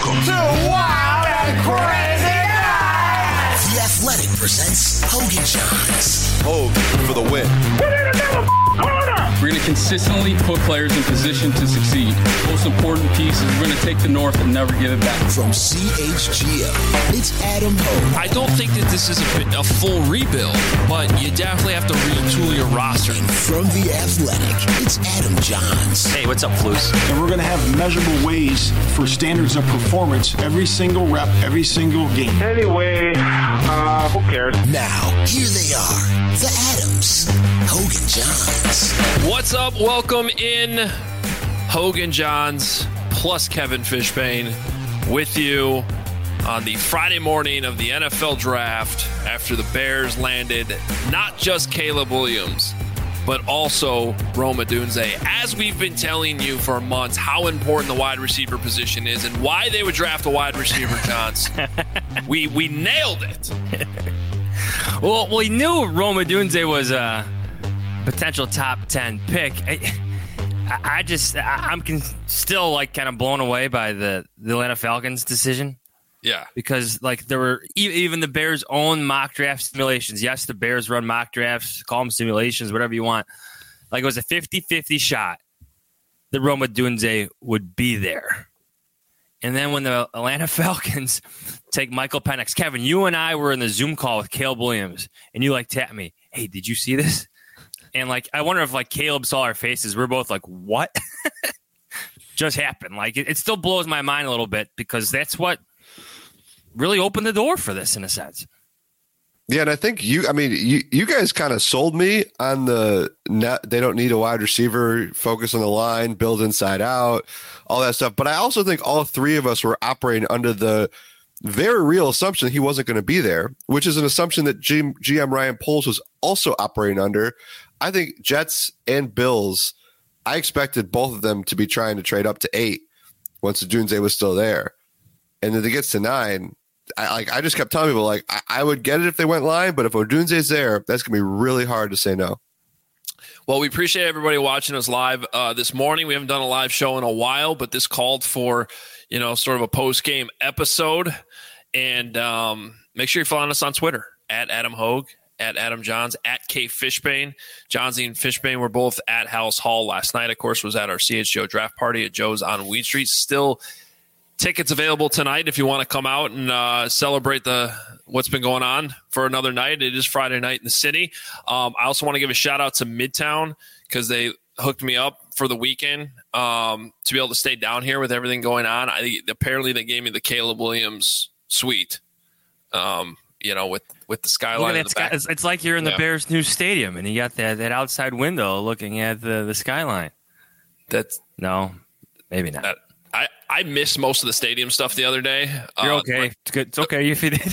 Welcome to Wild and Crazy Night. The Athletic presents Hogan Johns. Hogan for the win. Put it in the corner. We're going to consistently put players in position to succeed. Most important piece is we're going to take the North and never give it back. From CHGO, it's Adam Hogue. I don't think that this is a full rebuild, but you definitely have to retool your roster. And from The Athletic, it's Adam Johns. Hey, what's up, Flus? And we're going to have measurable ways for standards of performance every single rep, every single game. Anyway, who cares? Now, here they are, the Adams, Hogan Johns. What's up? Welcome in Hogan Johns plus Kevin Fishbane with you on the Friday morning of the NFL Draft after the Bears landed not just Caleb Williams, but also Rome Odunze. As we've been telling you for months how important the wide receiver position is and why they would draft a wide receiver, Johns. we nailed it. Well, we knew Rome Odunze was a potential top 10 pick. I'm still like kind of blown away by the Atlanta Falcons decision. Yeah. Because like there were even the Bears' own mock draft simulations. Yes, the Bears run mock drafts, call them simulations, whatever you want. Like it was a 50-50 shot that Rome Odunze would be there. And then when the Atlanta Falcons take Michael Penix, Kevin, you and I were in the Zoom call with Caleb Williams, and you like tapped me, hey, did you see this? And like, I wonder if like Caleb saw our faces. We're both like, what just happened? Like, it still blows my mind a little bit because that's what really opened the door for this in a sense. Yeah, and I think you guys kind of sold me on the net. They don't need a wide receiver, focus on the line, build inside out, all that stuff. But I also think all three of us were operating under the very real assumption he wasn't going to be there, which is an assumption that GM Ryan Poles was also operating under. I think Jets and Bills, I expected both of them to be trying to trade up to 8 once Odunze was still there. And then it gets to 9. I just kept telling people, like, I would get it if they went line, but if Odunze's there, that's going to be really hard to say no. Well, we appreciate everybody watching us live this morning. We haven't done a live show in a while, but this called for, sort of a post-game episode. And make sure you're following us on Twitter, at Adam Hogue, at Adam Johns, at K Fishbane. Johnsy and Fishbane were both at House Hall last night. Of course, was at our CHGO draft party at Joe's on Weed Street. Still tickets available tonight if you want to come out and celebrate what's been going on for another night. It is Friday night in the city. I also want to give a shout out to Midtown because they hooked me up for the weekend to be able to stay down here with everything going on. Apparently they gave me the Caleb Williams suite, with the skyline in the back. It's like you're in the Bears' new stadium and you got that outside window looking at the skyline. No, maybe not. I missed most of the stadium stuff the other day. You're okay. It's good. It's okay if you did.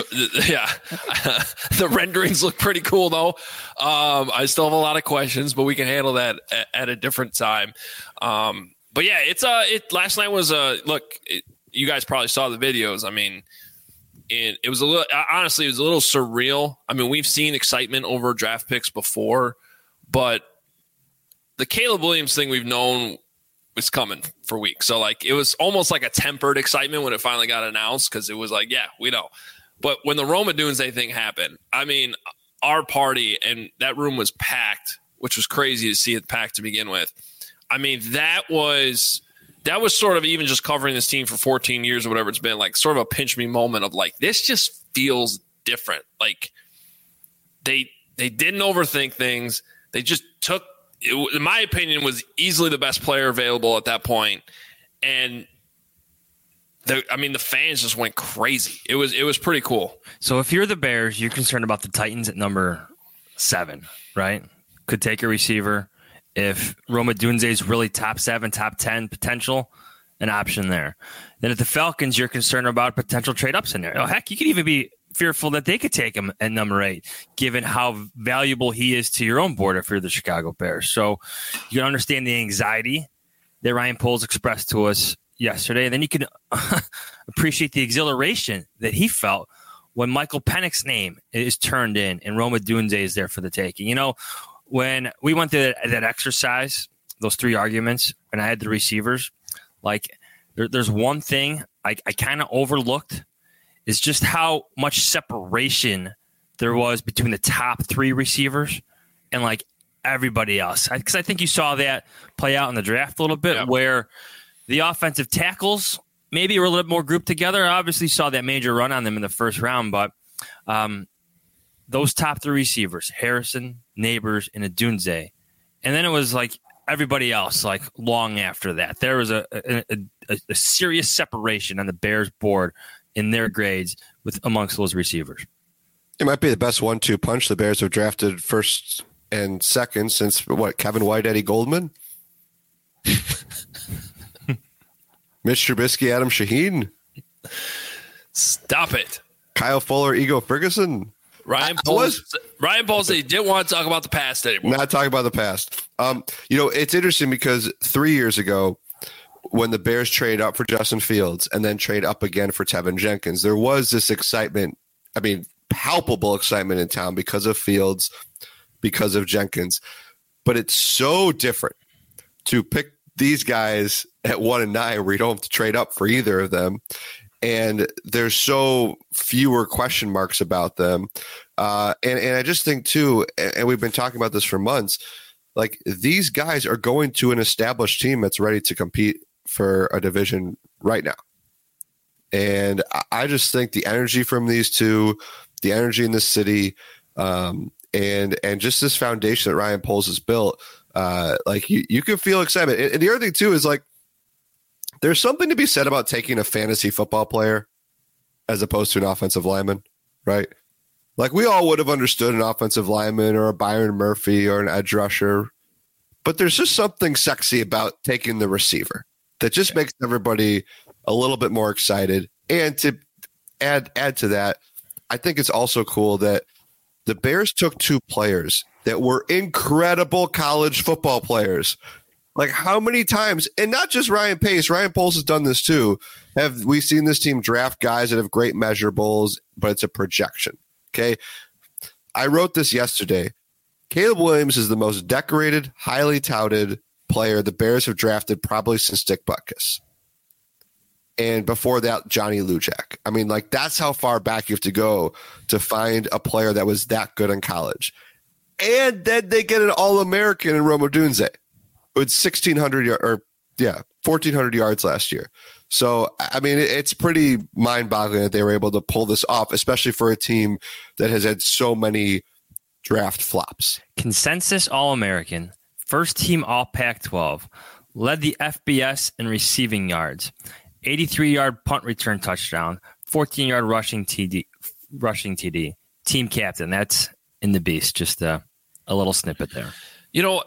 The renderings look pretty cool, though. I still have a lot of questions, but we can handle that at a different time. But yeah, last night was you guys probably saw the videos. I mean, it was a little surreal. I mean, we've seen excitement over draft picks before, but the Caleb Williams thing we've known was coming for weeks. So like, it was almost like a tempered excitement when it finally got announced. Cause it was like, yeah, we know. But when the Rome Odunze thing happened, I mean, our party and that room was packed, which was crazy to see it packed to begin with. I mean, that was sort of even just covering this team for 14 years or whatever it's been, like sort of a pinch me moment of like, this just feels different. Like they didn't overthink things. They just took, in my opinion, was easily the best player available at that point. And the fans just went crazy. It was pretty cool. So if you're the Bears, you're concerned about the Titans at number 7, right? Could take a receiver. If Rome Odunze is really top 7, top 10 potential, an option there. Then at the Falcons, you're concerned about potential trade-up scenario. Heck, you could even be fearful that they could take him at number 8, given how valuable he is to your own board if you're the Chicago Bears. So you can understand the anxiety that Ryan Poles expressed to us yesterday, and then you can appreciate the exhilaration that he felt when Michael Penix's name is turned in and Rome Odunze is there for the taking. When we went through that exercise, those 3 arguments, and I had the receivers, like there's one thing I kind of overlooked is just how much separation there was between the top 3 receivers and like everybody else. Because I think you saw that play out in the draft a little bit, where the offensive tackles maybe were a little bit more grouped together. I obviously saw that major run on them in the first round, but those top 3 receivers, Harrison, Neighbors, and Odunze, and then it was like everybody else, like long after that. There was a serious separation on the Bears board in their grades amongst those receivers. It might be the best 1-2 punch the Bears have drafted first and second since Kevin White, Eddie Goldman, Mitch Trubisky, Adam Shaheen. Stop it. Kyle Fuller, Ego Ferguson. Ryan Poles said he didn't want to talk about the past anymore. Not talking about the past. It's interesting because 3 years ago, when the Bears trade up for Justin Fields and then trade up again for Tevin Jenkins, there was this excitement. I mean, palpable excitement in town because of Fields, because of Jenkins. But it's so different to pick these guys at 1 and 9 where you don't have to trade up for either of them. And there's so fewer question marks about them. And I just think, too, and we've been talking about this for months, like these guys are going to an established team that's ready to compete for a division right now. And I just think the energy from these two, the energy in the city, and just this foundation that Ryan Poles has built, like you can feel excitement. And the other thing, too, is like, there's something to be said about taking a fantasy football player as opposed to an offensive lineman, right? Like we all would have understood an offensive lineman or a Byron Murphy or an edge rusher, but there's just something sexy about taking the receiver that just makes everybody a little bit more excited. And to add to that, I think it's also cool that the Bears took 2 players that were incredible college football players. Like how many times, and not just Ryan Pace, Ryan Poles has done this too. Have we seen this team draft guys that have great measurables, but it's a projection? Okay. I wrote this yesterday. Caleb Williams is the most decorated, highly touted player the Bears have drafted probably since Dick Butkus. And before that, Johnny Lujack. I mean, like that's how far back you have to go to find a player that was that good in college. And then they get an All-American in Rome Odunze. With 1,400 yards last year. So, I mean, it's pretty mind-boggling that they were able to pull this off, especially for a team that has had so many draft flops. Consensus All-American, first team All Pac-12, led the FBS in receiving yards, 83-yard punt return touchdown, 14-yard rushing TD, team captain. That's in the beast. Just a little snippet there. You know,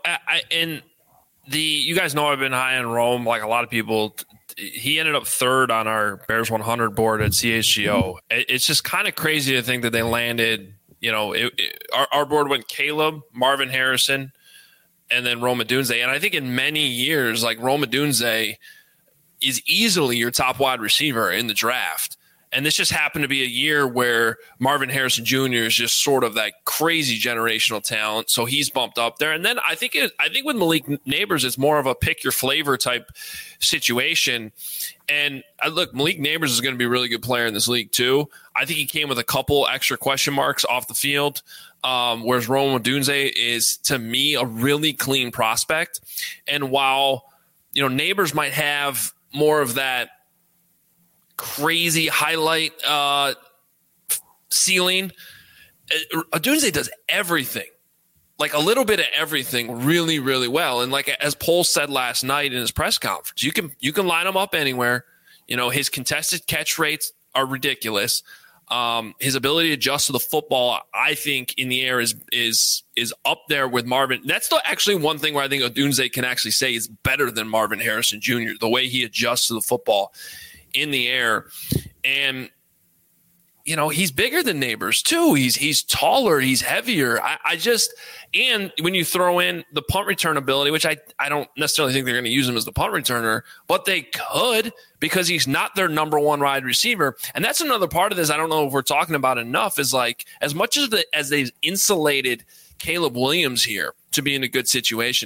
you guys know I've been high on Rome, like a lot of people. He ended up 3rd on our Bears 100 board at CHGO. It's just kind of crazy to think that they landed, our board went Caleb, Marvin Harrison, and then Rome Odunze. And I think in many years, like Rome Odunze is easily your top wide receiver in the draft. And this just happened to be a year where Marvin Harrison Jr. is just sort of that crazy generational talent. So he's bumped up there. And then I think with Malik Neighbors, it's more of a pick your flavor type situation. And look, Malik Neighbors is going to be a really good player in this league too. I think he came with a couple extra question marks off the field. Whereas Rome Odunze is, to me, a really clean prospect. And while, Neighbors might have more of that crazy highlight ceiling, Odunze does everything, like a little bit of everything really, really well. And like as Poles said last night in his press conference, you can line him up anywhere. His contested catch rates are ridiculous. His ability to adjust to the football, I think, in the air is up there with Marvin. That's actually one thing where I think Odunze can actually say is better than Marvin Harrison Jr., the way he adjusts to the football in the air. And he's bigger than Neighbors too. He's taller, he's heavier. And when you throw in the punt return ability, which I don't necessarily think they're going to use him as the punt returner, but they could, because he's not their number one wide receiver. And that's another part of this I don't know if we're talking about enough, is like as much as they've insulated Caleb Williams here to be in a good situation,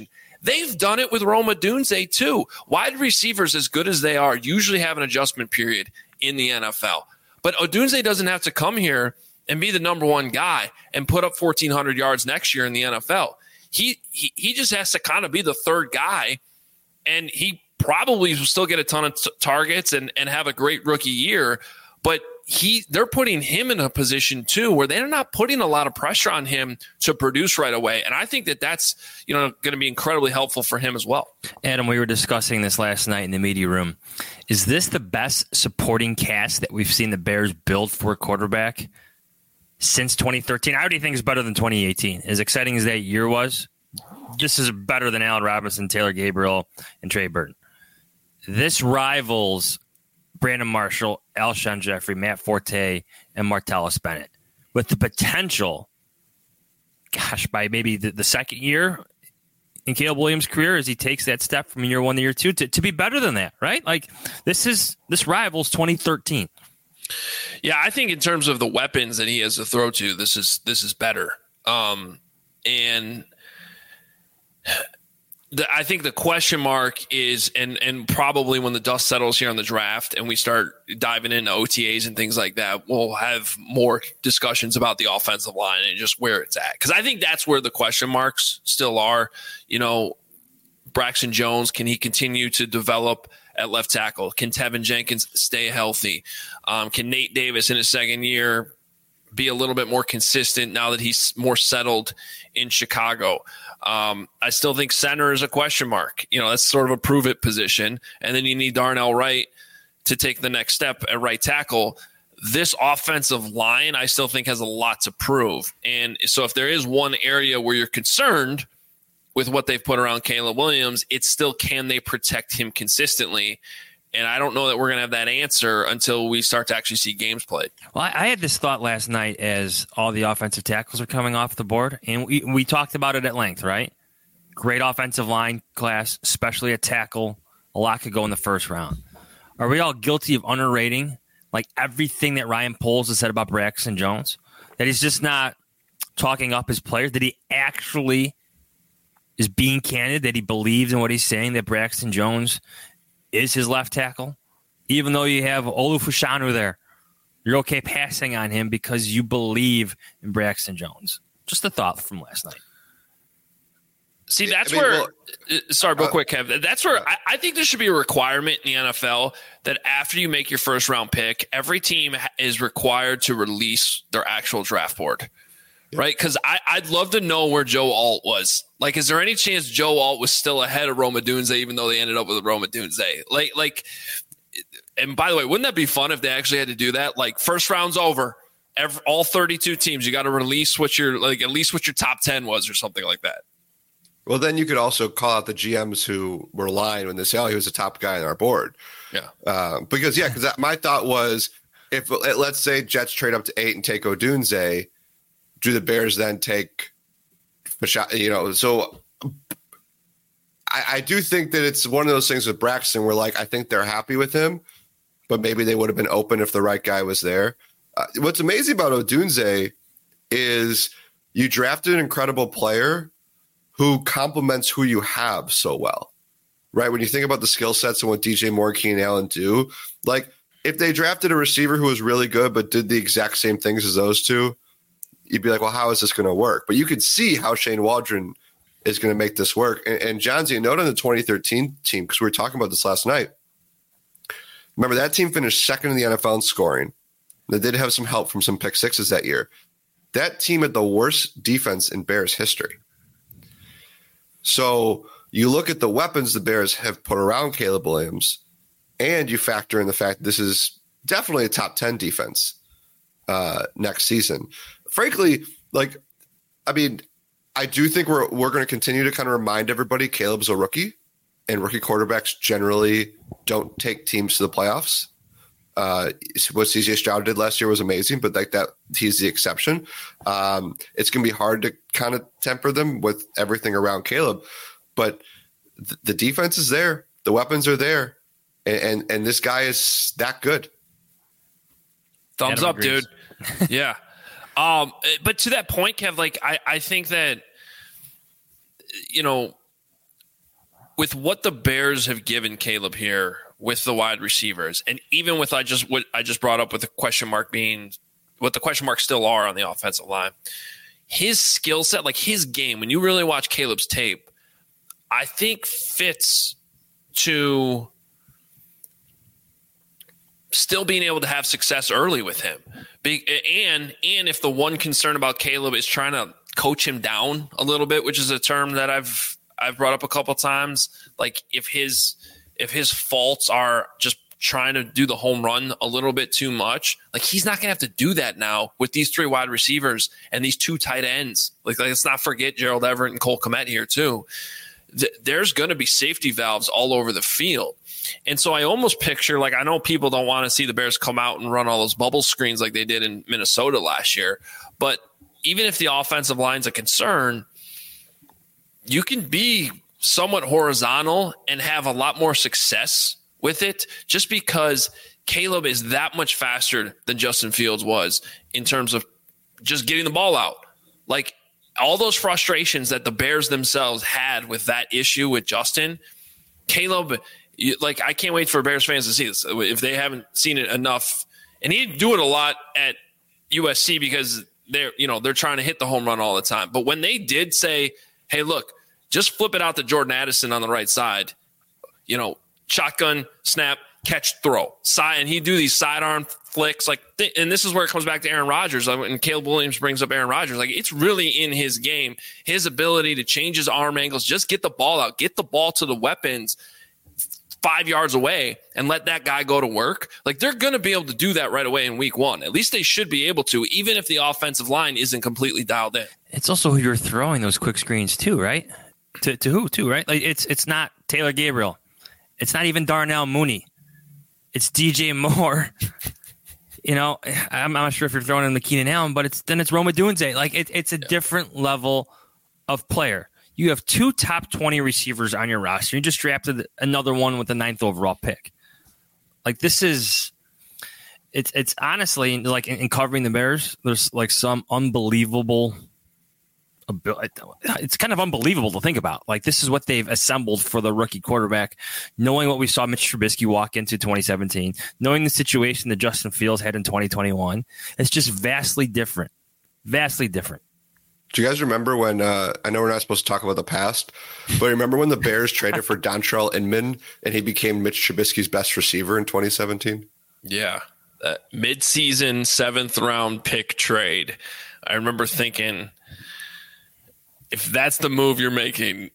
They've done it with Rome Odunze too. Wide receivers, as good as they are, usually have an adjustment period in the NFL. But Odunze doesn't have to come here and be the number one guy and put up 1,400 yards next year in the NFL. He just has to kind of be the third guy, and he probably will still get a ton of targets and have a great rookie year. But they're putting him in a position too where they're not putting a lot of pressure on him to produce right away. And I think that's going to be incredibly helpful for him as well. Adam, we were discussing this last night in the media room. Is this the best supporting cast that we've seen the Bears build for a quarterback since 2013? I already think it's better than 2018. As exciting as that year was, this is better than Allen Robinson, Taylor Gabriel, and Trey Burton. This rivals Brandon Marshall, Alshon Jeffrey, Matt Forte, and Martellus Bennett, with the potential, by maybe the second year in Caleb Williams' career as he takes that step from year 1 to year 2 to be better than that, right? Like this rivals 2013. Yeah, I think in terms of the weapons that he has to throw to, this is better. And I think the question mark is, and probably when the dust settles here on the draft and we start diving into OTAs and things like that, we'll have more discussions about the offensive line and just where it's at. Because I think that's where the question marks still are. Braxton Jones, can he continue to develop at left tackle? Can Tevin Jenkins stay healthy? Can Nate Davis in his second year be a little bit more consistent now that he's more settled in Chicago? I still think center is a question mark. That's sort of a prove it position. And then you need Darnell Wright to take the next step at right tackle. This offensive line, I still think, has a lot to prove. And so if there is one area where you're concerned with what they've put around Caleb Williams, it's still, can they protect him consistently? And I don't know that we're going to have that answer until we start to actually see games played. Well, I had this thought last night as all the offensive tackles are coming off the board, and we talked about it at length, right? Great offensive line class, especially a tackle. A lot could go in the first round. Are we all guilty of underrating like everything that Ryan Poles has said about Braxton Jones? That he's just not talking up his players? That he actually is being candid, that he believes in what he's saying, that Braxton Jones is his left tackle? Even though you have Olufushanu there, you're okay passing on him because you believe in Braxton Jones. Just a thought from last night. See, that's real quick, Kev. That's where I think there should be a requirement in the NFL that after you make your first round pick, every team is required to release their actual draft board. Right? Because I'd love to know where Joe Alt was. Like, is there any chance Joe Alt was still ahead of Rome Odunze, even though they ended up with Rome Odunze? Like, and by the way, wouldn't that be fun if they actually had to do that? Like, first round's over. All 32 teams, you got to release at least what your top 10 was or something like that. Well, then you could also call out the GMs who were lying when they say, "Oh, he was the top guy on our board." Yeah. Because my thought was, if let's say Jets trade up to 8 and take Odunze, do the Bears then take So I do think that it's one of those things with Braxton where, like, I think they're happy with him, but maybe they would have been open if the right guy was there. What's amazing about Odunze is you drafted an incredible player who complements who you have so well, right? When you think about the skill sets and what DJ Moore, Keenan Allen do, like if they drafted a receiver who was really good but did the exact same things as those two, you'd be like, well, how is this going to work? But you could see how Shane Waldron is going to make this work. And Johnsy, a note on the 2013 team, because we were talking about this last night. Remember, that team finished second in the NFL in scoring. They did have some help from some pick sixes that year. That team had the worst defense in Bears history. So you look at the weapons the Bears have put around Caleb Williams, and you factor in the fact that this is definitely a top 10 defense next season. Frankly, I do think we're going to continue to kind of remind everybody Caleb's a rookie, and rookie quarterbacks generally don't take teams to the playoffs. What CJ Stroud did last year was amazing, but like that, he's the exception. It's going to be hard to kind of temper them with everything around Caleb, but the defense is there, the weapons are there, and this guy is that good. Thumbs up, dude. Yeah. But to that point, Kev, like I think that, with what the Bears have given Caleb here with the wide receivers, and even with what I just brought up with the question mark being what the question marks still are on the offensive line, his skill set, like his game, when you really watch Caleb's tape, I think fits to still being able to have success early with him. And if the one concern about Caleb is trying to coach him down a little bit, which is a term that I've brought up a couple times, like if his faults are just trying to do the home run a little bit too much, like he's not gonna have to do that now with these 3 wide receivers and these 2 tight ends. Like let's not forget Gerald Everett and Cole Kmet here too. There's going to be safety valves all over the field. And so I almost picture, like, I know people don't want to see the Bears come out and run all those bubble screens like they did in Minnesota last year, but even if the offensive line's a concern, you can be somewhat horizontal and have a lot more success with it just because Caleb is that much faster than Justin Fields was in terms of just getting the ball out. Like, all those frustrations that the Bears themselves had with that issue with Justin, Caleb, like, I can't wait for Bears fans to see this if they haven't seen it enough. And he didn't do it a lot at USC because they're trying to hit the home run all the time. But when they did say, hey, look, just flip it out to Jordan Addison on the right side, shotgun, snap, catch, throw. And he'd do these sidearm flicks, and this is where it comes back to Aaron Rodgers. And Caleb Williams brings up Aaron Rodgers. Like, it's really in his game, his ability to change his arm angles, just get the ball out, get the ball to the weapons 5 yards away, and let that guy go to work. Like, they're going to be able to do that right away in week 1. At least they should be able to, even if the offensive line isn't completely dialed in. It's also who you're throwing those quick screens to, right? To who, too, right? Like, it's not Taylor Gabriel. It's not even Darnell Mooney. It's DJ Moore. I'm not sure if you're throwing in the Keenan Allen, but it's Rome Odunze. Like, it's a different level of player. You have 2 top 20 receivers on your roster. You just drafted another one with the 9th overall pick. Like, this is it's honestly, like, in covering the Bears, there's like some unbelievable. It's kind of unbelievable to think about. Like, this is what they've assembled for the rookie quarterback, knowing what we saw Mitch Trubisky walk into 2017, knowing the situation that Justin Fields had in 2021. It's just vastly different. Vastly different. Do you guys remember when, I know we're not supposed to talk about the past, but remember when the Bears traded for Dontrell Inman and he became Mitch Trubisky's best receiver in 2017? Yeah. That mid-season 7th round pick trade. I remember thinking, if that's the move you're making,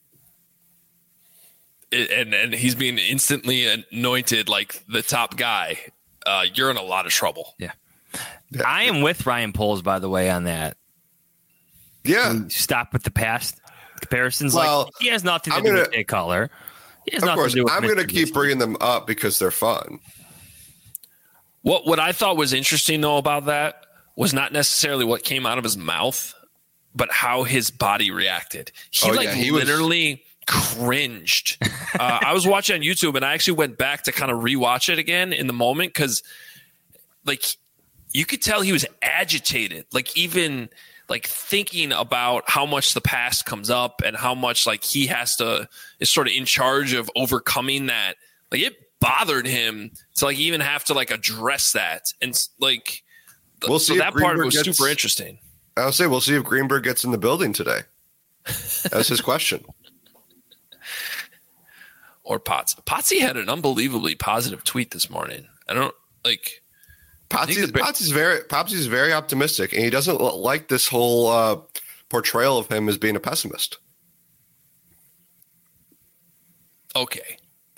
and he's being instantly anointed like the top guy, you're in a lot of trouble. Yeah. I am with Ryan Poles, by the way, on that. Yeah. Stop with the past comparisons. Well, like, he has nothing to do with Jay Cutler. Of course, I'm going to keep bringing them up because they're fun. What I thought was interesting, though, about that was not necessarily what came out of his mouth, but how his body reacted. He literally cringed. I was watching on YouTube, and I actually went back to kind of rewatch it again in the moment because, like, you could tell he was agitated. Like, even like thinking about how much the past comes up and how much like he is sort of in charge of overcoming that. Like, it bothered him to like even have to like address that. And like, we'll see. So that part was super interesting. I'll say we'll see if Greenberg gets in the building today. That's his question. Or Potsy had an unbelievably positive tweet this morning. I don't like. Potsy's very optimistic, and he doesn't like this whole portrayal of him as being a pessimist. Okay.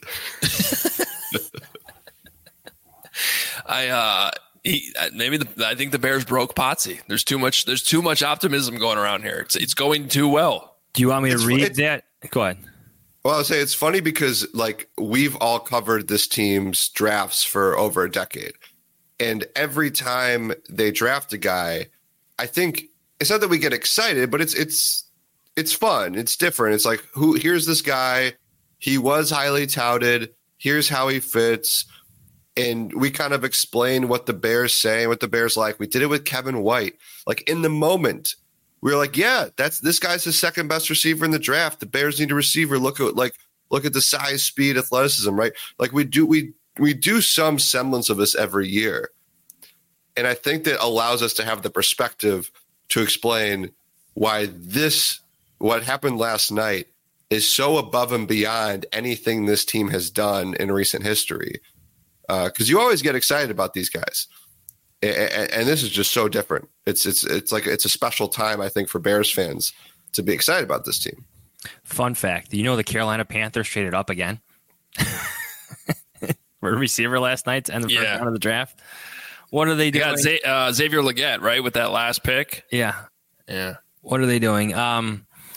I think the Bears broke Potsy. There's too much optimism going around here. It's going too well. Do you want me to read that? Go ahead. Well, I would say it's funny because like we've all covered this team's drafts for over a decade. And every time they draft a guy, I think it's not that we get excited, but it's fun. It's different. It's like, here's this guy. He was highly touted. Here's how he fits. And we kind of explain what the Bears say, what the Bears like. We did it with Kevin White. Like, in the moment, we were like, yeah, this guy's the second best receiver in the draft. The Bears need a receiver. Look at, like, Look at the size, speed, athleticism, right? Like we do some semblance of this every year. And I think that allows us to have the perspective to explain why what happened last night is so above and beyond anything this team has done in recent history. Because you always get excited about these guys. And this is just so different. It's like it's a special time, I think, for Bears fans to be excited about this team. Fun fact: do you know the Carolina Panthers traded up again for a receiver last night to end the first round of the draft? What are they doing? Xavier Legette, right, with that last pick. Yeah. What are they doing? Let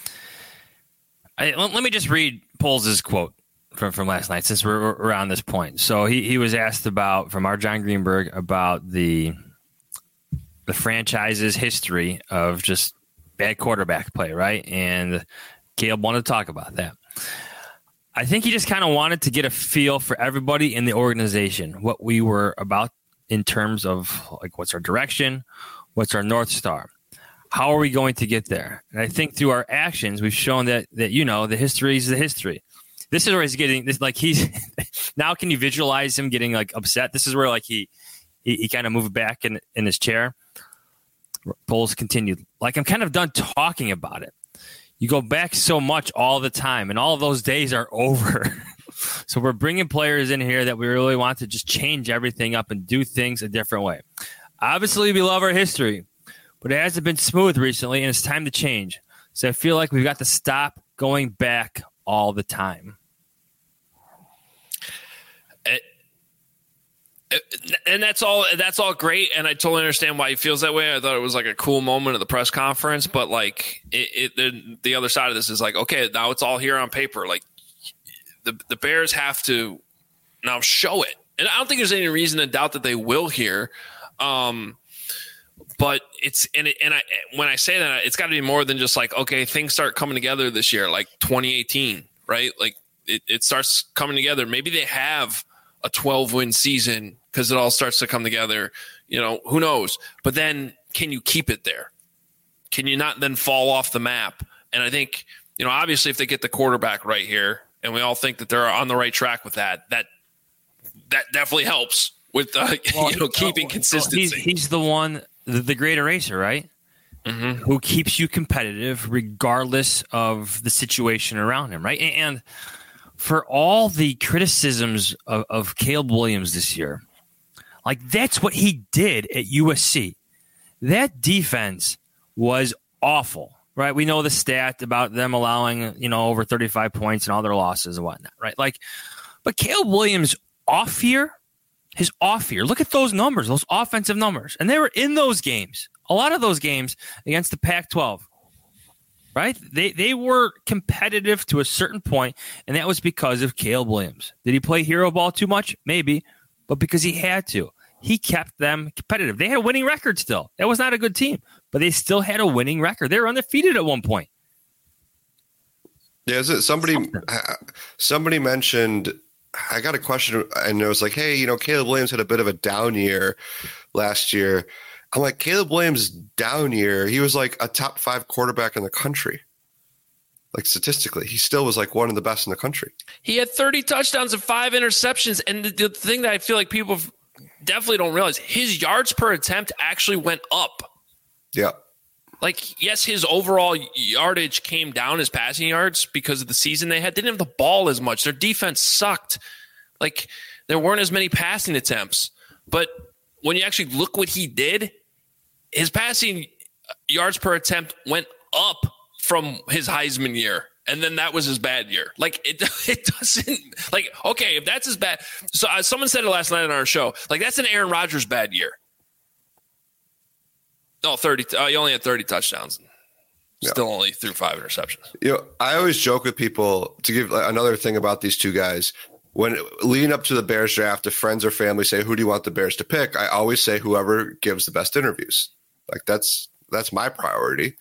me just read Poles' quote from last night, since we're on this point. So he was asked from our John Greenberg about the franchise's history of just bad quarterback play, right? And Caleb wanted to talk about that. I think he just kind of wanted to get a feel for everybody in the organization, what we were about in terms of like what's our direction, what's our North Star, how are we going to get there? And I think through our actions, we've shown that the history is the history. This is where he's getting this, like he's now. Can you visualize him getting like upset? This is where like he kind of moved back in his chair. Poles continued, like, I'm kind of done talking about it. You go back so much all the time, and all of those days are over. So we're bringing players in here that we really want to just change everything up and do things a different way. Obviously, we love our history, but it hasn't been smooth recently, and it's time to change. So I feel like we've got to stop going back all the time. And that's all great, and I totally understand why he feels that way. I thought it was like a cool moment at the press conference, but like the other side of this is like, okay, now it's all here on paper. Like the Bears have to now show it, and I don't think there's any reason to doubt that they will here. But when I say that, it's got to be more than just like, okay, things start coming together this year, like 2018, right? Like it starts coming together. Maybe they have a 12-win season because it all starts to come together. Who knows? But then can you keep it there? Can you not then fall off the map? And I think, obviously if they get the quarterback right here, and we all think that they're on the right track with that definitely helps with keeping consistency. He's the one, the great eraser, right? Mm-hmm. Who keeps you competitive regardless of the situation around him, right? And for all the criticisms of Caleb Williams this year, like that's what he did at USC. That defense was awful, right? We know the stat about them allowing, over 35 points and all their losses and whatnot, right? Like, but Caleb Williams his off year, look at those numbers, those offensive numbers. And they were in those games, a lot of those games against the Pac-12. Right? They were competitive to a certain point, and that was because of Caleb Williams. Did he play hero ball too much? Maybe, but because he had to. He kept them competitive. They had a winning record still. That was not a good team, but they still had a winning record. They were undefeated at one point. Yeah, somebody mentioned, I got a question, and it was like, hey, Caleb Williams had a bit of a down year last year. I'm like, Caleb Williams' down year, he was like a top 5 quarterback in the country. Like statistically, he still was like one of the best in the country. He had 30 touchdowns and 5 interceptions. And the thing that I feel like people definitely don't realize, his yards per attempt actually went up. Yeah. Like, yes, his overall yardage came down, his passing yards, because of the season they had. They didn't have the ball as much. Their defense sucked. Like, there weren't as many passing attempts. But when you actually look what he did, his passing yards per attempt went up from his Heisman year, and then that was his bad year. Like it doesn't like, okay, if that's his bad. So someone said it last night on our show. Like, that's an Aaron Rodgers bad year. No, 30. He only had 30 touchdowns. Still only threw 5 interceptions. I always joke with people, to give another thing about these two guys. When leading up to the Bears draft, if friends or family say, who do you want the Bears to pick? I always say whoever gives the best interviews. Like that's my priority.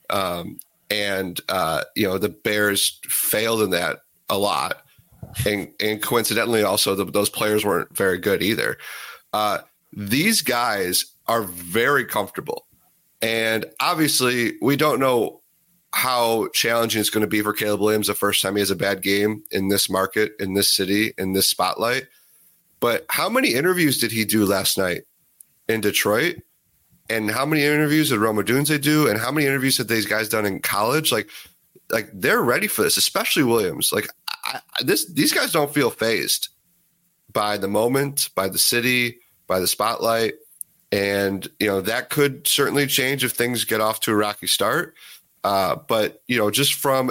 The Bears failed in that a lot. And coincidentally, also, those players weren't very good either. These guys are very comfortable. And obviously, we don't know how challenging it's going to be for Caleb Williams the first time he has a bad game in this market, in this city, in this spotlight. But how many interviews did he do last night in Detroit? And how many interviews did Rome Odunze do? And how many interviews had these guys done in college? Like they're ready for this, especially Williams. Like these guys don't feel fazed by the moment, by the city, by the spotlight. And, that could certainly change if things get off to a rocky start. But, just from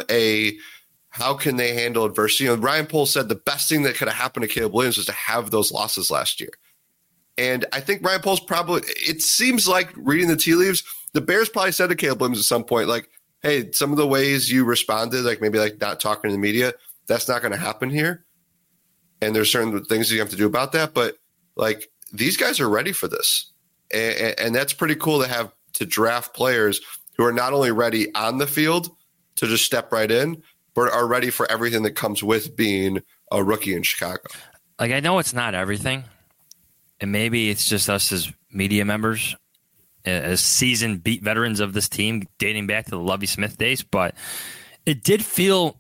how can they handle adversity? Ryan Poles said the best thing that could have happened to Caleb Williams was to have those losses last year. And I think Ryan Poles it seems like reading the tea leaves, the Bears probably said to Caleb Williams at some point, like, hey, some of the ways you responded, like maybe like not talking to the media, that's not going to happen here. And there's certain things you have to do about that. But like these guys are ready for this. And that's pretty cool to draft players who are not only ready on the field to just step right in, but are ready for everything that comes with being a rookie in Chicago. Like, I know it's not everything. And maybe it's just us as media members, as seasoned beat veterans of this team, dating back to the Lovie Smith days. But it did feel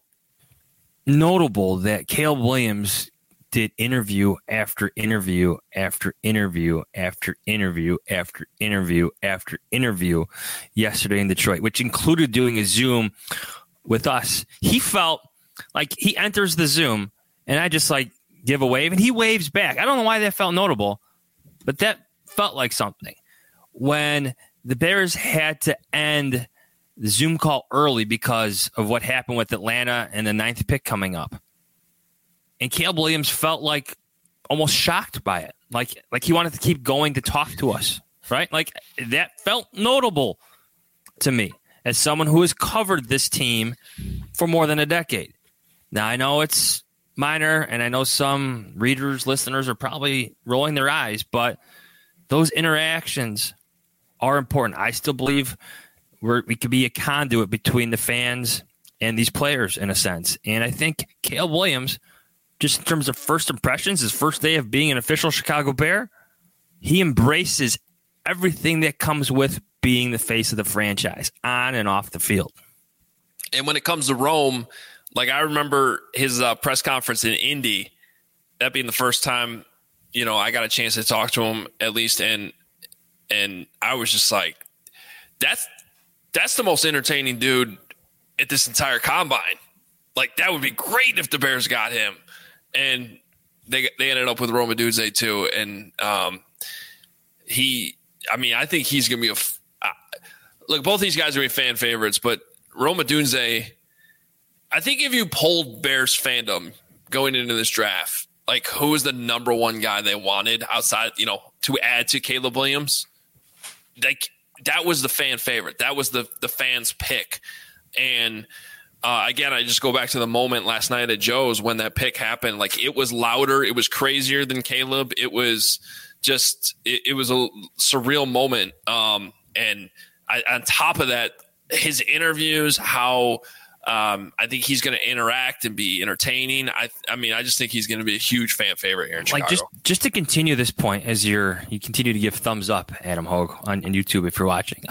notable that Caleb Williams did interview after interview after interview after interview after interview after interview yesterday in Detroit, which included doing a Zoom with us. He felt like he enters the Zoom and I just like give a wave and he waves back. I don't know why that felt notable, but that felt like something. When the Bears had to end the Zoom call early because of what happened with Atlanta and the 9th pick coming up. And Caleb Williams felt like almost shocked by it. Like he wanted to keep going to talk to us, right? Like that felt notable to me as someone who has covered this team for more than a decade. Now, I know it's minor, and I know some readers, listeners are probably rolling their eyes, but those interactions are important. I still believe we could be a conduit between the fans and these players in a sense. And I think Caleb Williams, just in terms of first impressions, his first day of being an official Chicago Bear, he embraces everything that comes with being the face of the franchise on and off the field. And when it comes to Rome, like I remember his press conference in Indy, that being the first time, I got a chance to talk to him at least. And I was just like, that's the most entertaining dude at this entire combine. Like that would be great if the Bears got him. And they ended up with Rome Odunze too. And I think he's going to be look, both these guys are going to be fan favorites, but Rome Odunze, I think if you polled Bears fandom going into this draft, like who was the number one guy they wanted outside, to add to Caleb Williams, that was the fan favorite. That was the fans' pick. And again, I just go back to the moment last night at Joe's when that pick happened. Like it was louder. It was crazier than Caleb. It was just it was a surreal moment. And on top of that, his interviews, how I think he's going to interact and be entertaining. I just think he's going to be a huge fan favorite here in Chicago. Like just to continue this point, as you continue to give thumbs up, Adam Hogue on YouTube if you're watching.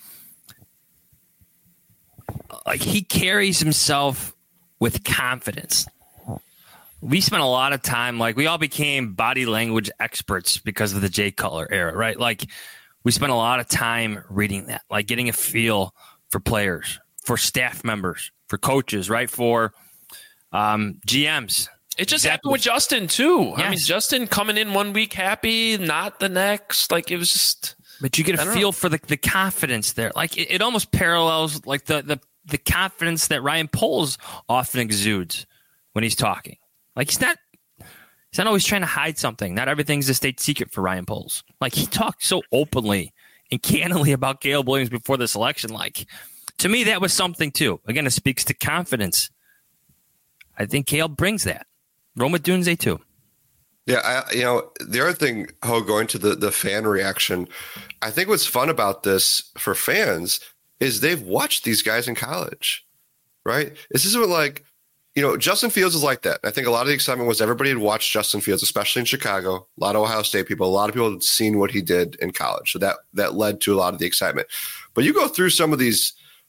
Like he carries himself with confidence. We spent a lot of time, like we all became body language experts because of the Jay Cutler era, right? Like we spent a lot of time reading that, like getting a feel for players, for staff members, for coaches, right? For GMs. It just happened with Justin too. Yes. I mean, Justin coming in 1 week happy, not the next. Like it was just. But you get a feel for the confidence there. Like it almost parallels like the confidence that Ryan Poles often exudes when he's talking. Like he's not always trying to hide something. Not everything's a state secret for Ryan Poles. Like he talked so openly and candidly about Caleb Williams before the selection. Like to me, that was something too. Again, it speaks to confidence. I think Caleb brings that. Rome Odunze too. Yeah, the other thing, going to the fan reaction, I think what's fun about this for fans is they've watched these guys in college, right? This isn't like, Justin Fields is like that. I think a lot of the excitement was everybody had watched Justin Fields, especially in Chicago. A lot of Ohio State people, a lot of people had seen what he did in college. So that led to a lot of the excitement. But you go through some of these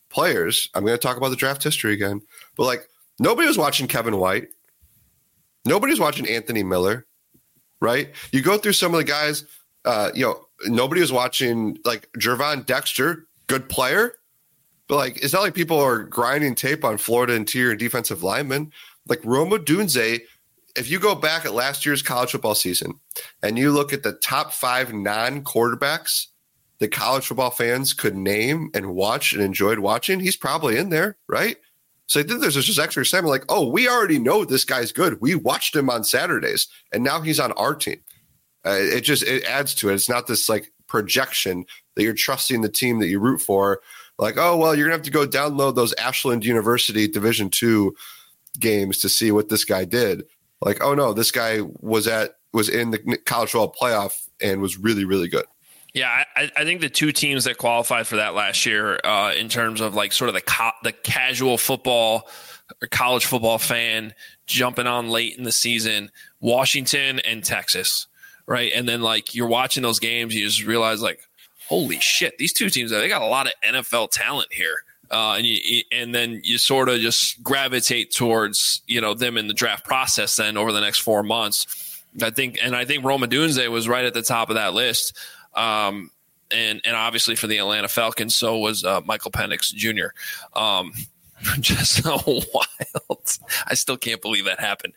players, I'm going to talk about the draft history again, but like nobody was watching Kevin White. Nobody's watching Anthony Miller, right? You go through some of the guys, nobody was watching like Gervon Dexter, good player, but like it's not like people are grinding tape on Florida interior and defensive linemen. Like Rome Odunze, if you go back at last year's college football season and you look at the top 5 non-quarterbacks that college football fans could name and watch and enjoyed watching, he's probably in there, right? So I think there's just extra excitement like, oh, we already know this guy's good. We watched him on Saturdays, and now he's on our team. It adds to it. It's not this like projection that you're trusting the team that you root for. Like, oh, well, you're going to have to go download those Ashland University Division II games to see what this guy did. Like, oh, no, this guy was in the college football playoff and was really, really good. Yeah, I think the two teams that qualified for that last year in terms of like sort of the casual football or college football fan jumping on late in the season, Washington and Texas, right? And then like you're watching those games, you just realize like, holy shit, these two teams, they got a lot of NFL talent here. And then you sort of just gravitate towards, them in the draft process then over the next 4 months. I think Rome Odunze was right at the top of that list. And obviously for the Atlanta Falcons, so was Michael Penix Jr. Just so wild. I still can't believe that happened.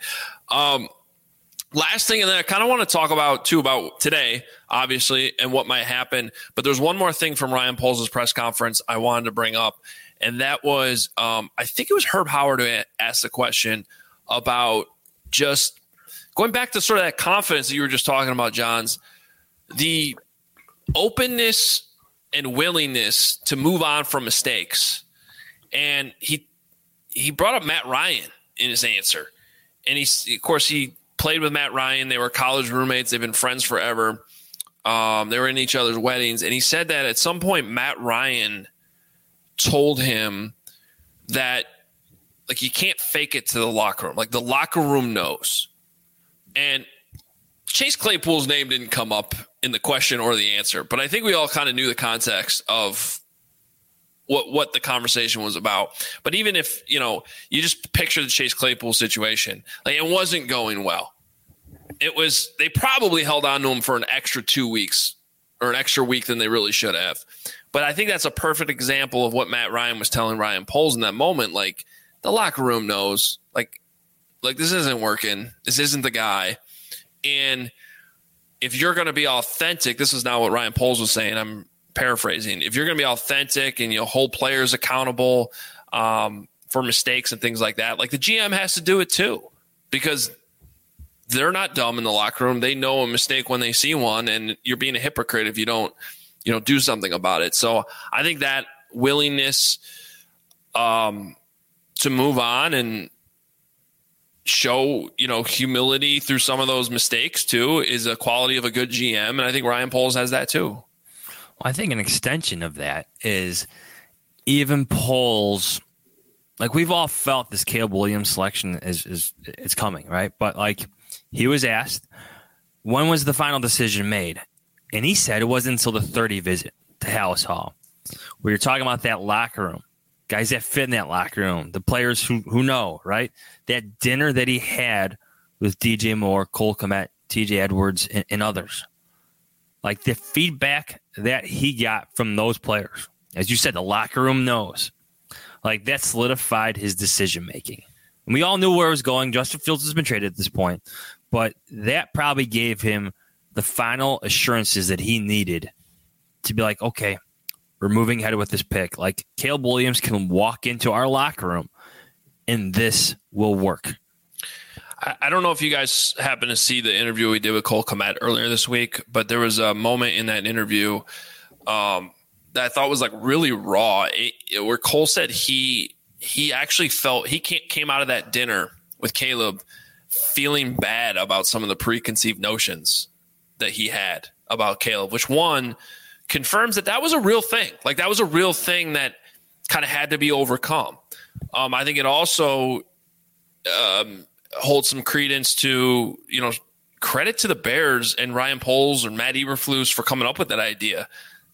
Last thing, and then I kind of want to talk about today, obviously, and what might happen. But there's one more thing from Ryan Poles' press conference I wanted to bring up, and that was I think it was Herb Howard who asked the question about just going back to sort of that confidence that you were just talking about, Johns, the openness and willingness to move on from mistakes. And he brought up Matt Ryan in his answer. And he played with Matt Ryan. They were college roommates. They've been friends forever. They were in each other's weddings. And he said that at some point, Matt Ryan told him that like you can't fake it to the locker room. Like the locker room knows. And Chase Claypool's name didn't come up in the question or the answer, but I think we all kind of knew the context of what the conversation was about. But even if, you just picture the Chase Claypool situation, like it wasn't going well. They probably held on to him for an extra 2 weeks or an extra week than they really should have. But I think that's a perfect example of what Matt Ryan was telling Ryan Poles in that moment. Like the locker room knows, like this isn't working. This isn't the guy. And if you're going to be authentic, this is not what Ryan Poles was saying. I'm paraphrasing. If you're going to be authentic and hold players accountable for mistakes and things like that, like the GM has to do it too, because they're not dumb in the locker room. They know a mistake when they see one, and you're being a hypocrite if you don't do something about it. So I think that willingness to move on and show, humility through some of those mistakes too is a quality of a good GM. And I think Ryan Poles has that too. Well, I think an extension of that is even Poles, like we've all felt this Caleb Williams selection is coming, right? But like he was asked, when was the final decision made? And he said it wasn't until the 30 visit to Hallis Hall, where you're talking about that locker room. Guys that fit in that locker room, the players who know, right? That dinner that he had with DJ Moore, Cole Kmet, TJ Edwards, and others. Like the feedback that he got from those players. As you said, the locker room knows. Like that solidified his decision making. And we all knew where it was going. Justin Fields has been traded at this point. But that probably gave him the final assurances that he needed to be like, okay, we're moving ahead with this pick. Like Caleb Williams can walk into our locker room and this will work. I don't know if you guys happen to see the interview we did with Cole Kmet earlier this week, but there was a moment in that interview that I thought was like really raw, where Cole said he actually felt he came out of that dinner with Caleb feeling bad about some of the preconceived notions that he had about Caleb, which one confirms that was a real thing. Like that was a real thing that kind of had to be overcome. I think it also holds some credence to, credit to the Bears and Ryan Poles or Matt Eberflus for coming up with that idea.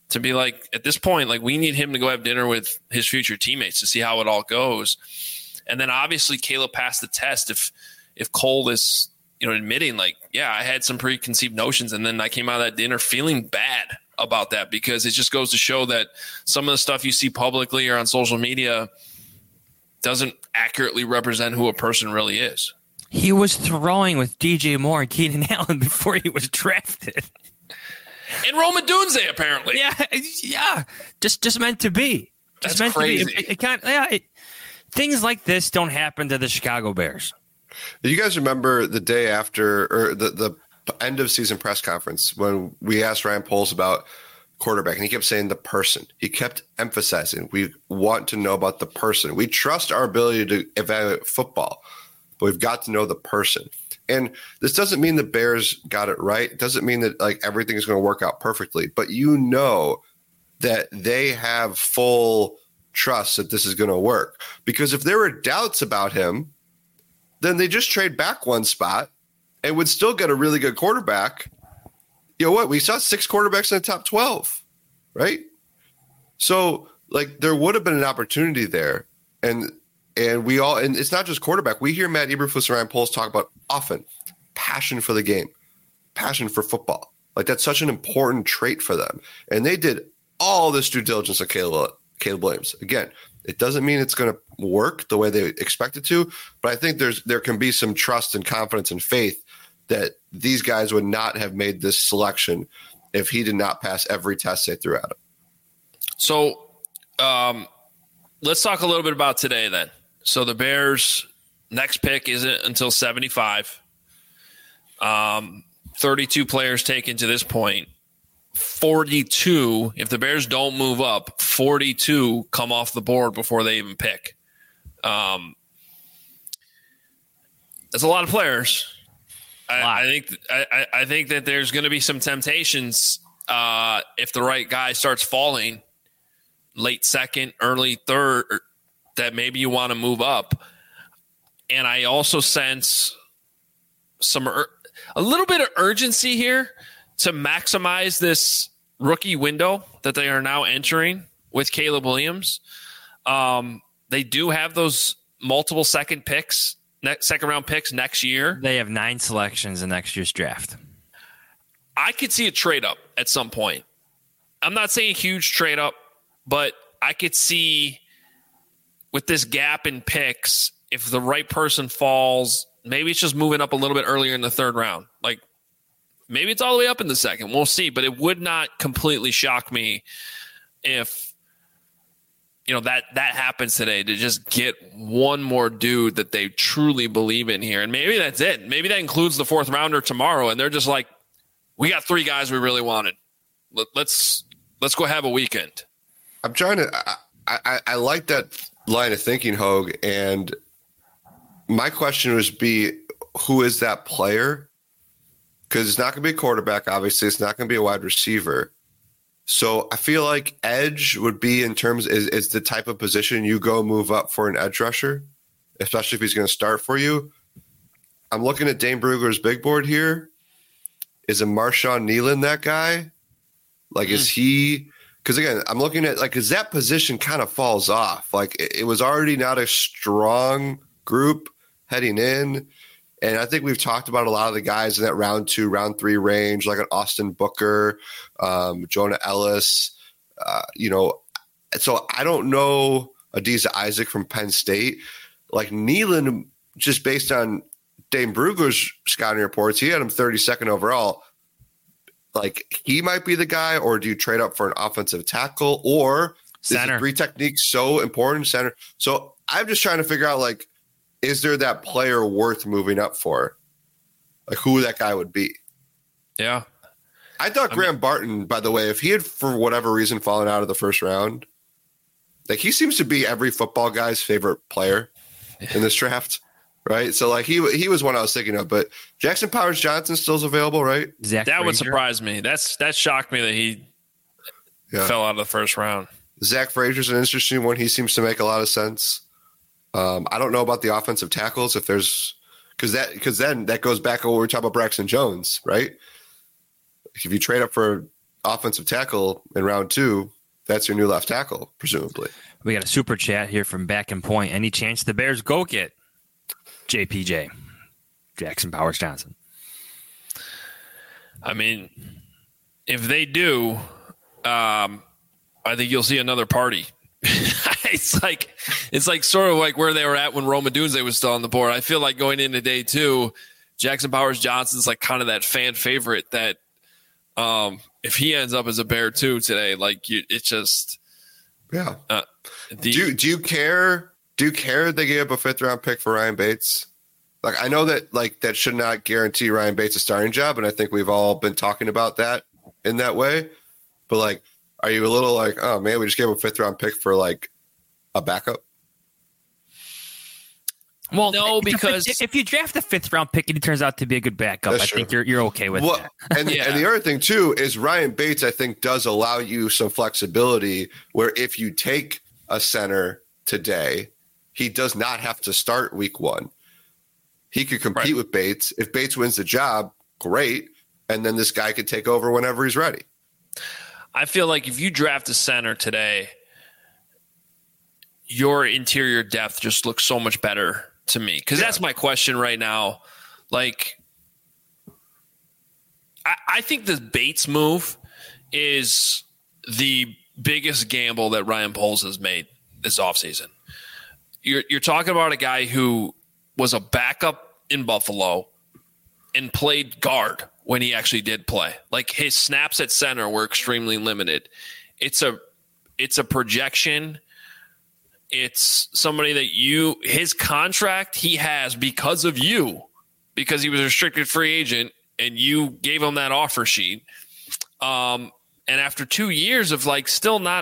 to be like, at this point, like we need him to go have dinner with his future teammates to see how it all goes. And then obviously Caleb passed the test. If Cole is, admitting like, yeah, I had some preconceived notions, and then I came out of that dinner feeling bad about that, because it just goes to show that some of the stuff you see publicly or on social media doesn't accurately represent who a person really is. He was throwing with DJ Moore and Keenan Allen before he was drafted. And Rome Odunze, apparently. Yeah. Just meant to be. Just That's meant crazy. to be. It can't. Yeah. Things like this don't happen to the Chicago Bears. You guys remember the day after, or the end of season press conference, when we asked Ryan Poles about quarterback, and he kept saying the person. He kept emphasizing, we want to know about the person. We trust our ability to evaluate football, but we've got to know the person. And this doesn't mean the Bears got it right. It doesn't mean that like everything is going to work out perfectly, but that they have full trust that this is going to work. Because if there were doubts about him, then they just trade back one spot and would still get a really good quarterback. You know what? We saw 6 quarterbacks in the top 12, right? So like there would have been an opportunity there. And it's not just quarterback. We hear Matt Eberflus and Ryan Poles talk about often passion for the game, passion for football. Like that's such an important trait for them. And they did all this due diligence on Caleb Williams. Again, it doesn't mean it's going to work the way they expect it to, but I think there can be some trust and confidence and faith that these guys would not have made this selection if he did not pass every test they threw at him. So let's talk a little bit about today then. So the Bears' next pick isn't until 75. 32 players taken to this point. 42, if the Bears don't move up, 42 come off the board before they even pick. That's a lot of players. I think that there's going to be some temptations if the right guy starts falling late second, early third, that maybe you want to move up. And I also sense a little bit of urgency here to maximize this rookie window that they are now entering with Caleb Williams. They do have those multiple second round picks next year. They have 9 selections in next year's draft. I could see a trade up at some point. I'm not saying huge trade up, but I could see with this gap in picks, if the right person falls, maybe it's just moving up a little bit earlier in the third round. Like maybe it's all the way up in the second. We'll see, but it would not completely shock me if that happens today, to just get one more dude that they truly believe in here. And maybe that's it. Maybe that includes the 4th rounder tomorrow, and they're just like, we got 3 guys we really wanted. Let's go have a weekend. I'm trying to I like that line of thinking, Hogue, and my question would be, who is that player? Because it's not going to be a quarterback, obviously. It's not going to be a wide receiver. So I feel like edge would be is the type of position you go move up for an edge rusher, especially if he's going to start for you. I'm looking at Dane Brugler's big board here. Is a Marshawn Nealon that guy? Like, is he – because, again, I'm looking at – like, because that position kind of falls off. Like, it was already not a strong group heading in. And I think we've talked about a lot of the guys in that round 2, round 3 range, like an Austin Booker, Jonah Ellis. So I don't know Adisa Isaac from Penn State. Like Nealon, just based on Dane Brugler's scouting reports, he had him 32nd overall. Like he might be the guy, or do you trade up for an offensive tackle, or center? Is 3 techniques so important? Center. So I'm just trying to figure out, like, is there that player worth moving up for? Like who that guy would be? Yeah. I thought Graham Barton, by the way, if he had for whatever reason fallen out of the first round, like he seems to be every football guy's favorite player in this draft, right? So like he was one I was thinking of, but Jackson Powers Johnson still's available, right? That would surprise me. That shocked me that he fell out of the first round. Zach Frazier's an interesting one. He seems to make a lot of sense. I don't know about the offensive tackles if there's because then that goes back to what we were talking about Braxton Jones, right? If you trade up for offensive tackle in round 2, that's your new left tackle, presumably. We got a super chat here from Back and Point. Any chance the Bears go get JPJ, Jackson Powers Johnson? I mean, if they do, I think you'll see another party. It's like sort of like where they were at when Rome Odunze was still on the board. I feel like going into day 2, Jackson Powers Johnson's like kind of that fan favorite that if he ends up as a Bear too today, like it's just Do you care? Do you care they gave up a 5th round pick for Ryan Bates? Like, I know that that should not guarantee Ryan Bates a starting job, and I think we've all been talking about that in that way. But like, are you a little like, oh man, we just gave him a 5th round pick for like a backup? Well, no, because if you draft a 5th round pick and he turns out to be a good backup, I think you're okay with that. And the other thing too is Ryan Bates, I think, does allow you some flexibility where if you take a center today, he does not have to start week 1. He could compete with Bates. If Bates wins the job, great. And then this guy could take over whenever he's ready. I feel like if you draft a center today, your interior depth just looks so much better to me. Because that's my question right now. Like, I think the Bates move is the biggest gamble that Ryan Poles has made this offseason. You're talking about a guy who was a backup in Buffalo and played guard when he actually did play. Like, his snaps at center were extremely limited. It's a projection. It's somebody that his contract he has because of you, because he was a restricted free agent and you gave him that offer sheet. And after 2 years of like still not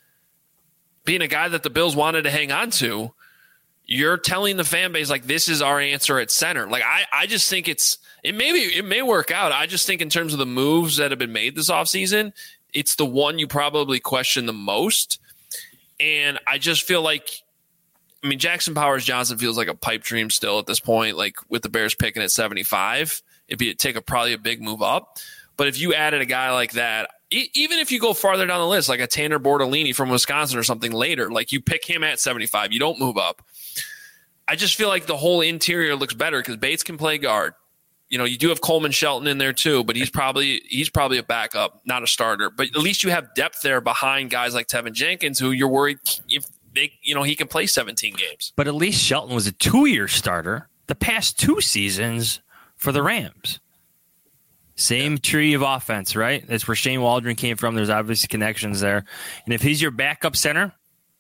being a guy that the Bills wanted to hang on to, you're telling the fan base, like, this is our answer at center. Like, I just think it may work out. I just think in terms of the moves that have been made this offseason, it's the one you probably question the most. And I just feel like, I mean, Jackson Powers Johnson feels like a pipe dream still at this point, like with the Bears picking at 75, it'd take probably a big move up. But if you added a guy like that, even if you go farther down the list, like a Tanner Bortolini from Wisconsin or something later, like you pick him at 75, you don't move up. I just feel like the whole interior looks better because Bates can play guard. You know, you do have Coleman Shelton in there too, but he's probably a backup, not a starter. But at least you have depth there behind guys like Tevin Jenkins, who you're worried if he can play 17 games. But at least Shelton was a 2-year starter the past 2 seasons for the Rams. Same tree of offense, right? That's where Shane Waldron came from. There's obviously connections there. And if he's your backup center,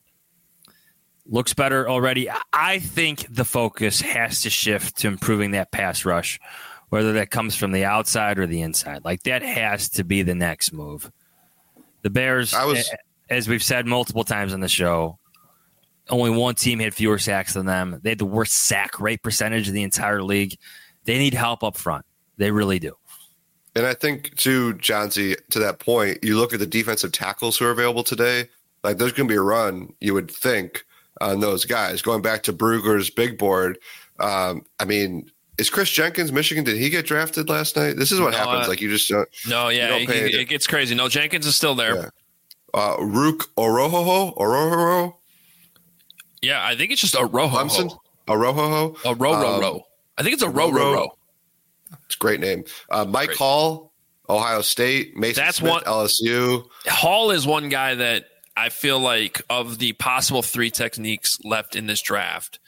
looks better already. I think the focus has to shift to improving that pass rush, whether that comes from the outside or the inside. Like, that has to be the next move. The Bears, as we've said multiple times on the show, only one team had fewer sacks than them. They had the worst sack rate percentage of the entire league. They need help up front. They really do. And I think, too, Johnsy, to that point, you look at the defensive tackles who are available today, like there's going to be a run, you would think, on those guys. Going back to Brugger's big board, I mean, is Chris Jenkins, Michigan, did he get drafted last night? This is what happens. Like, you just don't. No, yeah, it gets crazy. No, Jenkins is still there. Yeah. Rook Orohoho? Yeah, I think it's just Orohoho. Orohoho? I think it's Orohoho. It's a great name. Mike Hall, Ohio State. Mason Smith, LSU. Hall is one guy that I feel like of the possible 3 techniques left in this draft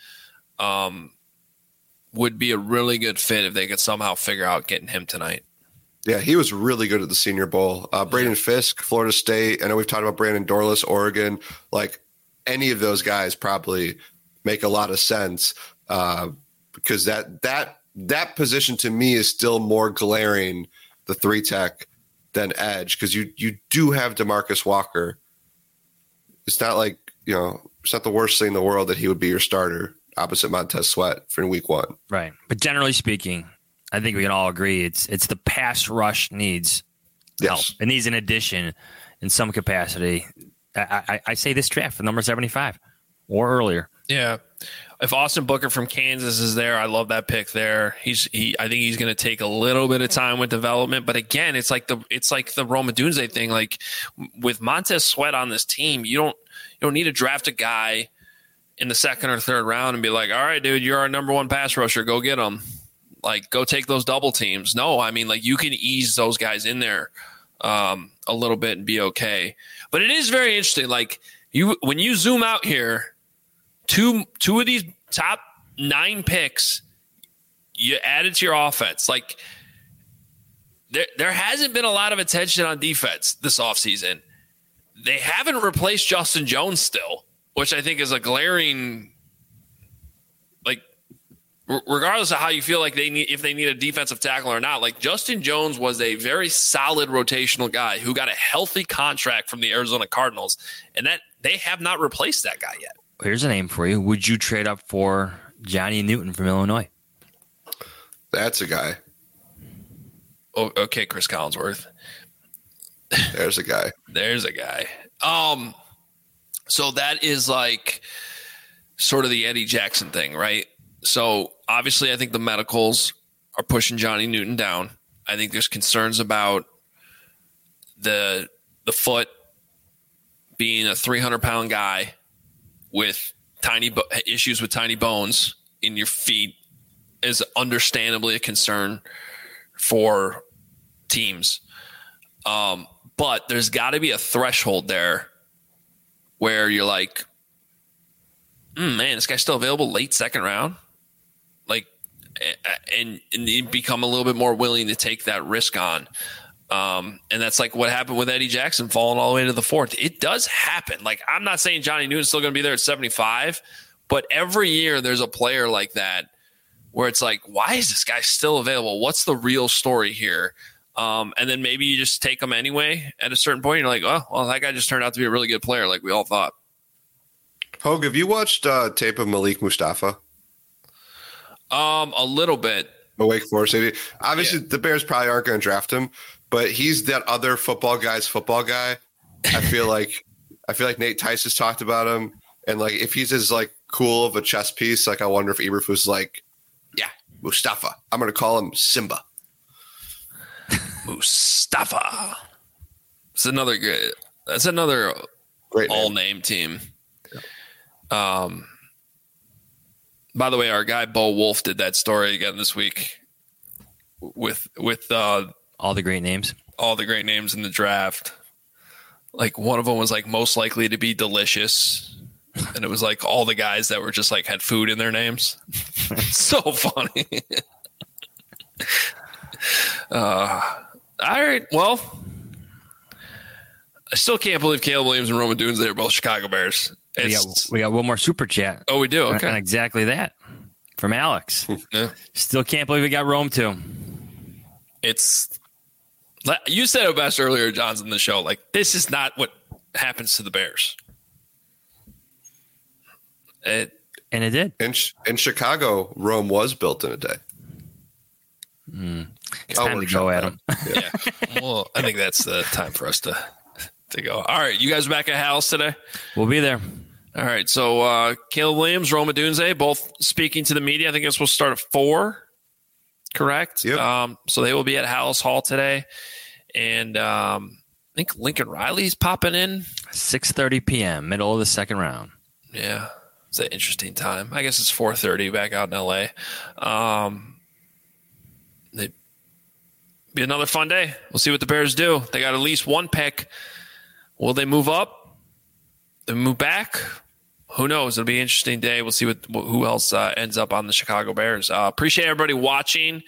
would be a really good fit if they could somehow figure out getting him tonight. Yeah, he was really good at the Senior Bowl. Braden Fisk, Florida State. I know we've talked about Brandon Dorlus, Oregon. Like, any of those guys probably make a lot of sense because that position to me is still more glaring, the 3 tech, than edge, because you do have DeMarcus Walker. It's not like, it's not the worst thing in the world that he would be your starter opposite Montez Sweat for week 1. Right. But generally speaking, I think we can all agree it's the pass rush needs help. It needs an addition in some capacity. I say this draft for number 75 or earlier. Yeah. if Austin Booker from Kansas is there, I love that pick there. I think he's going to take a little bit of time with development, but again, it's like the Rome Odunze thing. Like with Montez Sweat on this team, you don't need to draft a guy in the second or third round and be like, all right, dude, you're our number one pass rusher. Go get him. Like, go take those double teams. No, I mean, like, you can ease those guys in there a little bit and be okay. But it is very interesting. Like, when you zoom out here, two of these top 9 picks you added to your offense. Like, there hasn't been a lot of attention on defense this offseason. They haven't replaced Justin Jones still, which I think is a glaring, like, regardless of how you feel like if they need a defensive tackle or not, like Justin Jones was a very solid rotational guy who got a healthy contract from the Arizona Cardinals, and that they have not replaced that guy yet. Here's a name for you. Would you trade up for Johnny Newton from Illinois? That's a guy. Oh, okay, Chris Collinsworth. There's a guy. There's a guy. So that is like sort of the Eddie Jackson thing, right? So obviously I think the medicals are pushing Johnny Newton down. I think there's concerns about the foot being a 300-pound guy with issues with tiny bones in your feet is understandably a concern for teams. But there's got to be a threshold there where you're like, man, this guy's still available late second round. Like, and you become a little bit more willing to take that risk on. And that's like what happened with Eddie Jackson falling all the way to the 4th. It does happen. Like, I'm not saying Johnny Newton's still going to be there at 75, but every year there's a player like that where it's like, why is this guy still available? What's the real story here? And then maybe you just take him anyway at a certain point. You're like, oh, well, that guy just turned out to be a really good player like we all thought. Hogue, have you watched tape of Malik Mustafa? A little bit. Wake Forest. Obviously, the Bears probably aren't going to draft him, but he's that other football guy. I feel like Nate Tice has talked about him, and like if he's as like cool of a chess piece, like I wonder if Eberflus like, yeah, Mustafa. I'm going to call him Simba. Mustafa. That's another great all-name team. By the way, our guy Bo Wolf did that story again this week with all the great names. All the great names in the draft. Like one of them was like most likely to be delicious, and it was like all the guys that were just like had food in their names. So funny. All right. Well, I still can't believe Caleb Williams and Rome Odunze are both Chicago Bears. We got one more super chat. Oh, we do? Okay. And exactly that from Alex. Yeah. Still can't believe we got Rome too. You said it best earlier, John's in the show. Like, this is not what happens to the Bears. And it did. In Chicago, Rome was built in a day. It's time to go, Adam. Yeah. Well, I think that's the time for us to go. All right. You guys back at House today? We'll be there. All right. So Caleb Williams, Rome Odunze, both speaking to the media. I think it's supposed to start at 4. Correct? Yep. So they will be at Hallis Hall today. And I think Lincoln Riley's popping in. 6:30 p.m., middle of the second round. Yeah. It's an interesting time. I guess it's 4:30 back out in L.A. It'd be another fun day. We'll see what the Bears do. They got at least one pick. Will they move up? They move back? Who knows? It'll be an interesting day. We'll see who else ends up on the Chicago Bears. Appreciate everybody watching,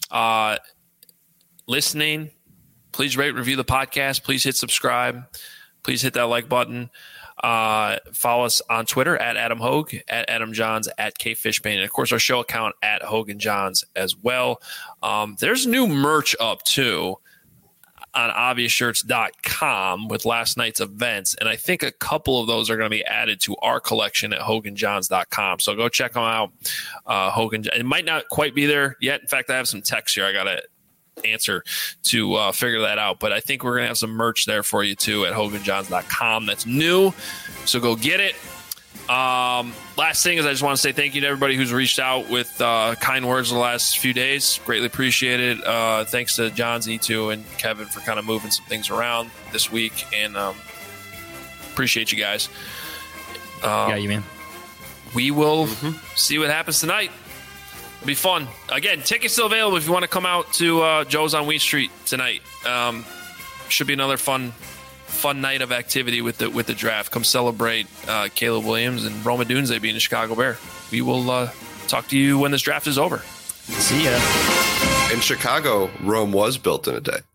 listening. Please rate, review the podcast. Please hit subscribe. Please hit that like button. Follow us on Twitter at Adam Hogue, at Adam Johns, at K Fishbane, and of course our show account at Hogue and Johns as well. There's new merch up too on obviousshirts.com with last night's events, and I think a couple of those are going to be added to our collection at hoganjohns.com. So go check them out. Hogan, it might not quite be there yet. In fact, I have some text here I got to answer to figure that out, but I think we're going to have some merch there for you too at hoganjohns.com. That's new, so go get it. Last thing is I just want to say thank you to everybody who's reached out with kind words the last few days. Greatly appreciate it. Thanks to John Z2 and Kevin for kind of moving some things around this week, and appreciate you guys. Yeah, you man. We will see what happens tonight. It'll be fun. Again, tickets still available if you want to come out to Joe's on Wheat Street tonight. Should be another fun night of activity with the draft. Come celebrate Caleb Williams and Rome Odunze being a Chicago Bear. We will talk to you when this draft is over. See ya. In Chicago, Rome was built in a day.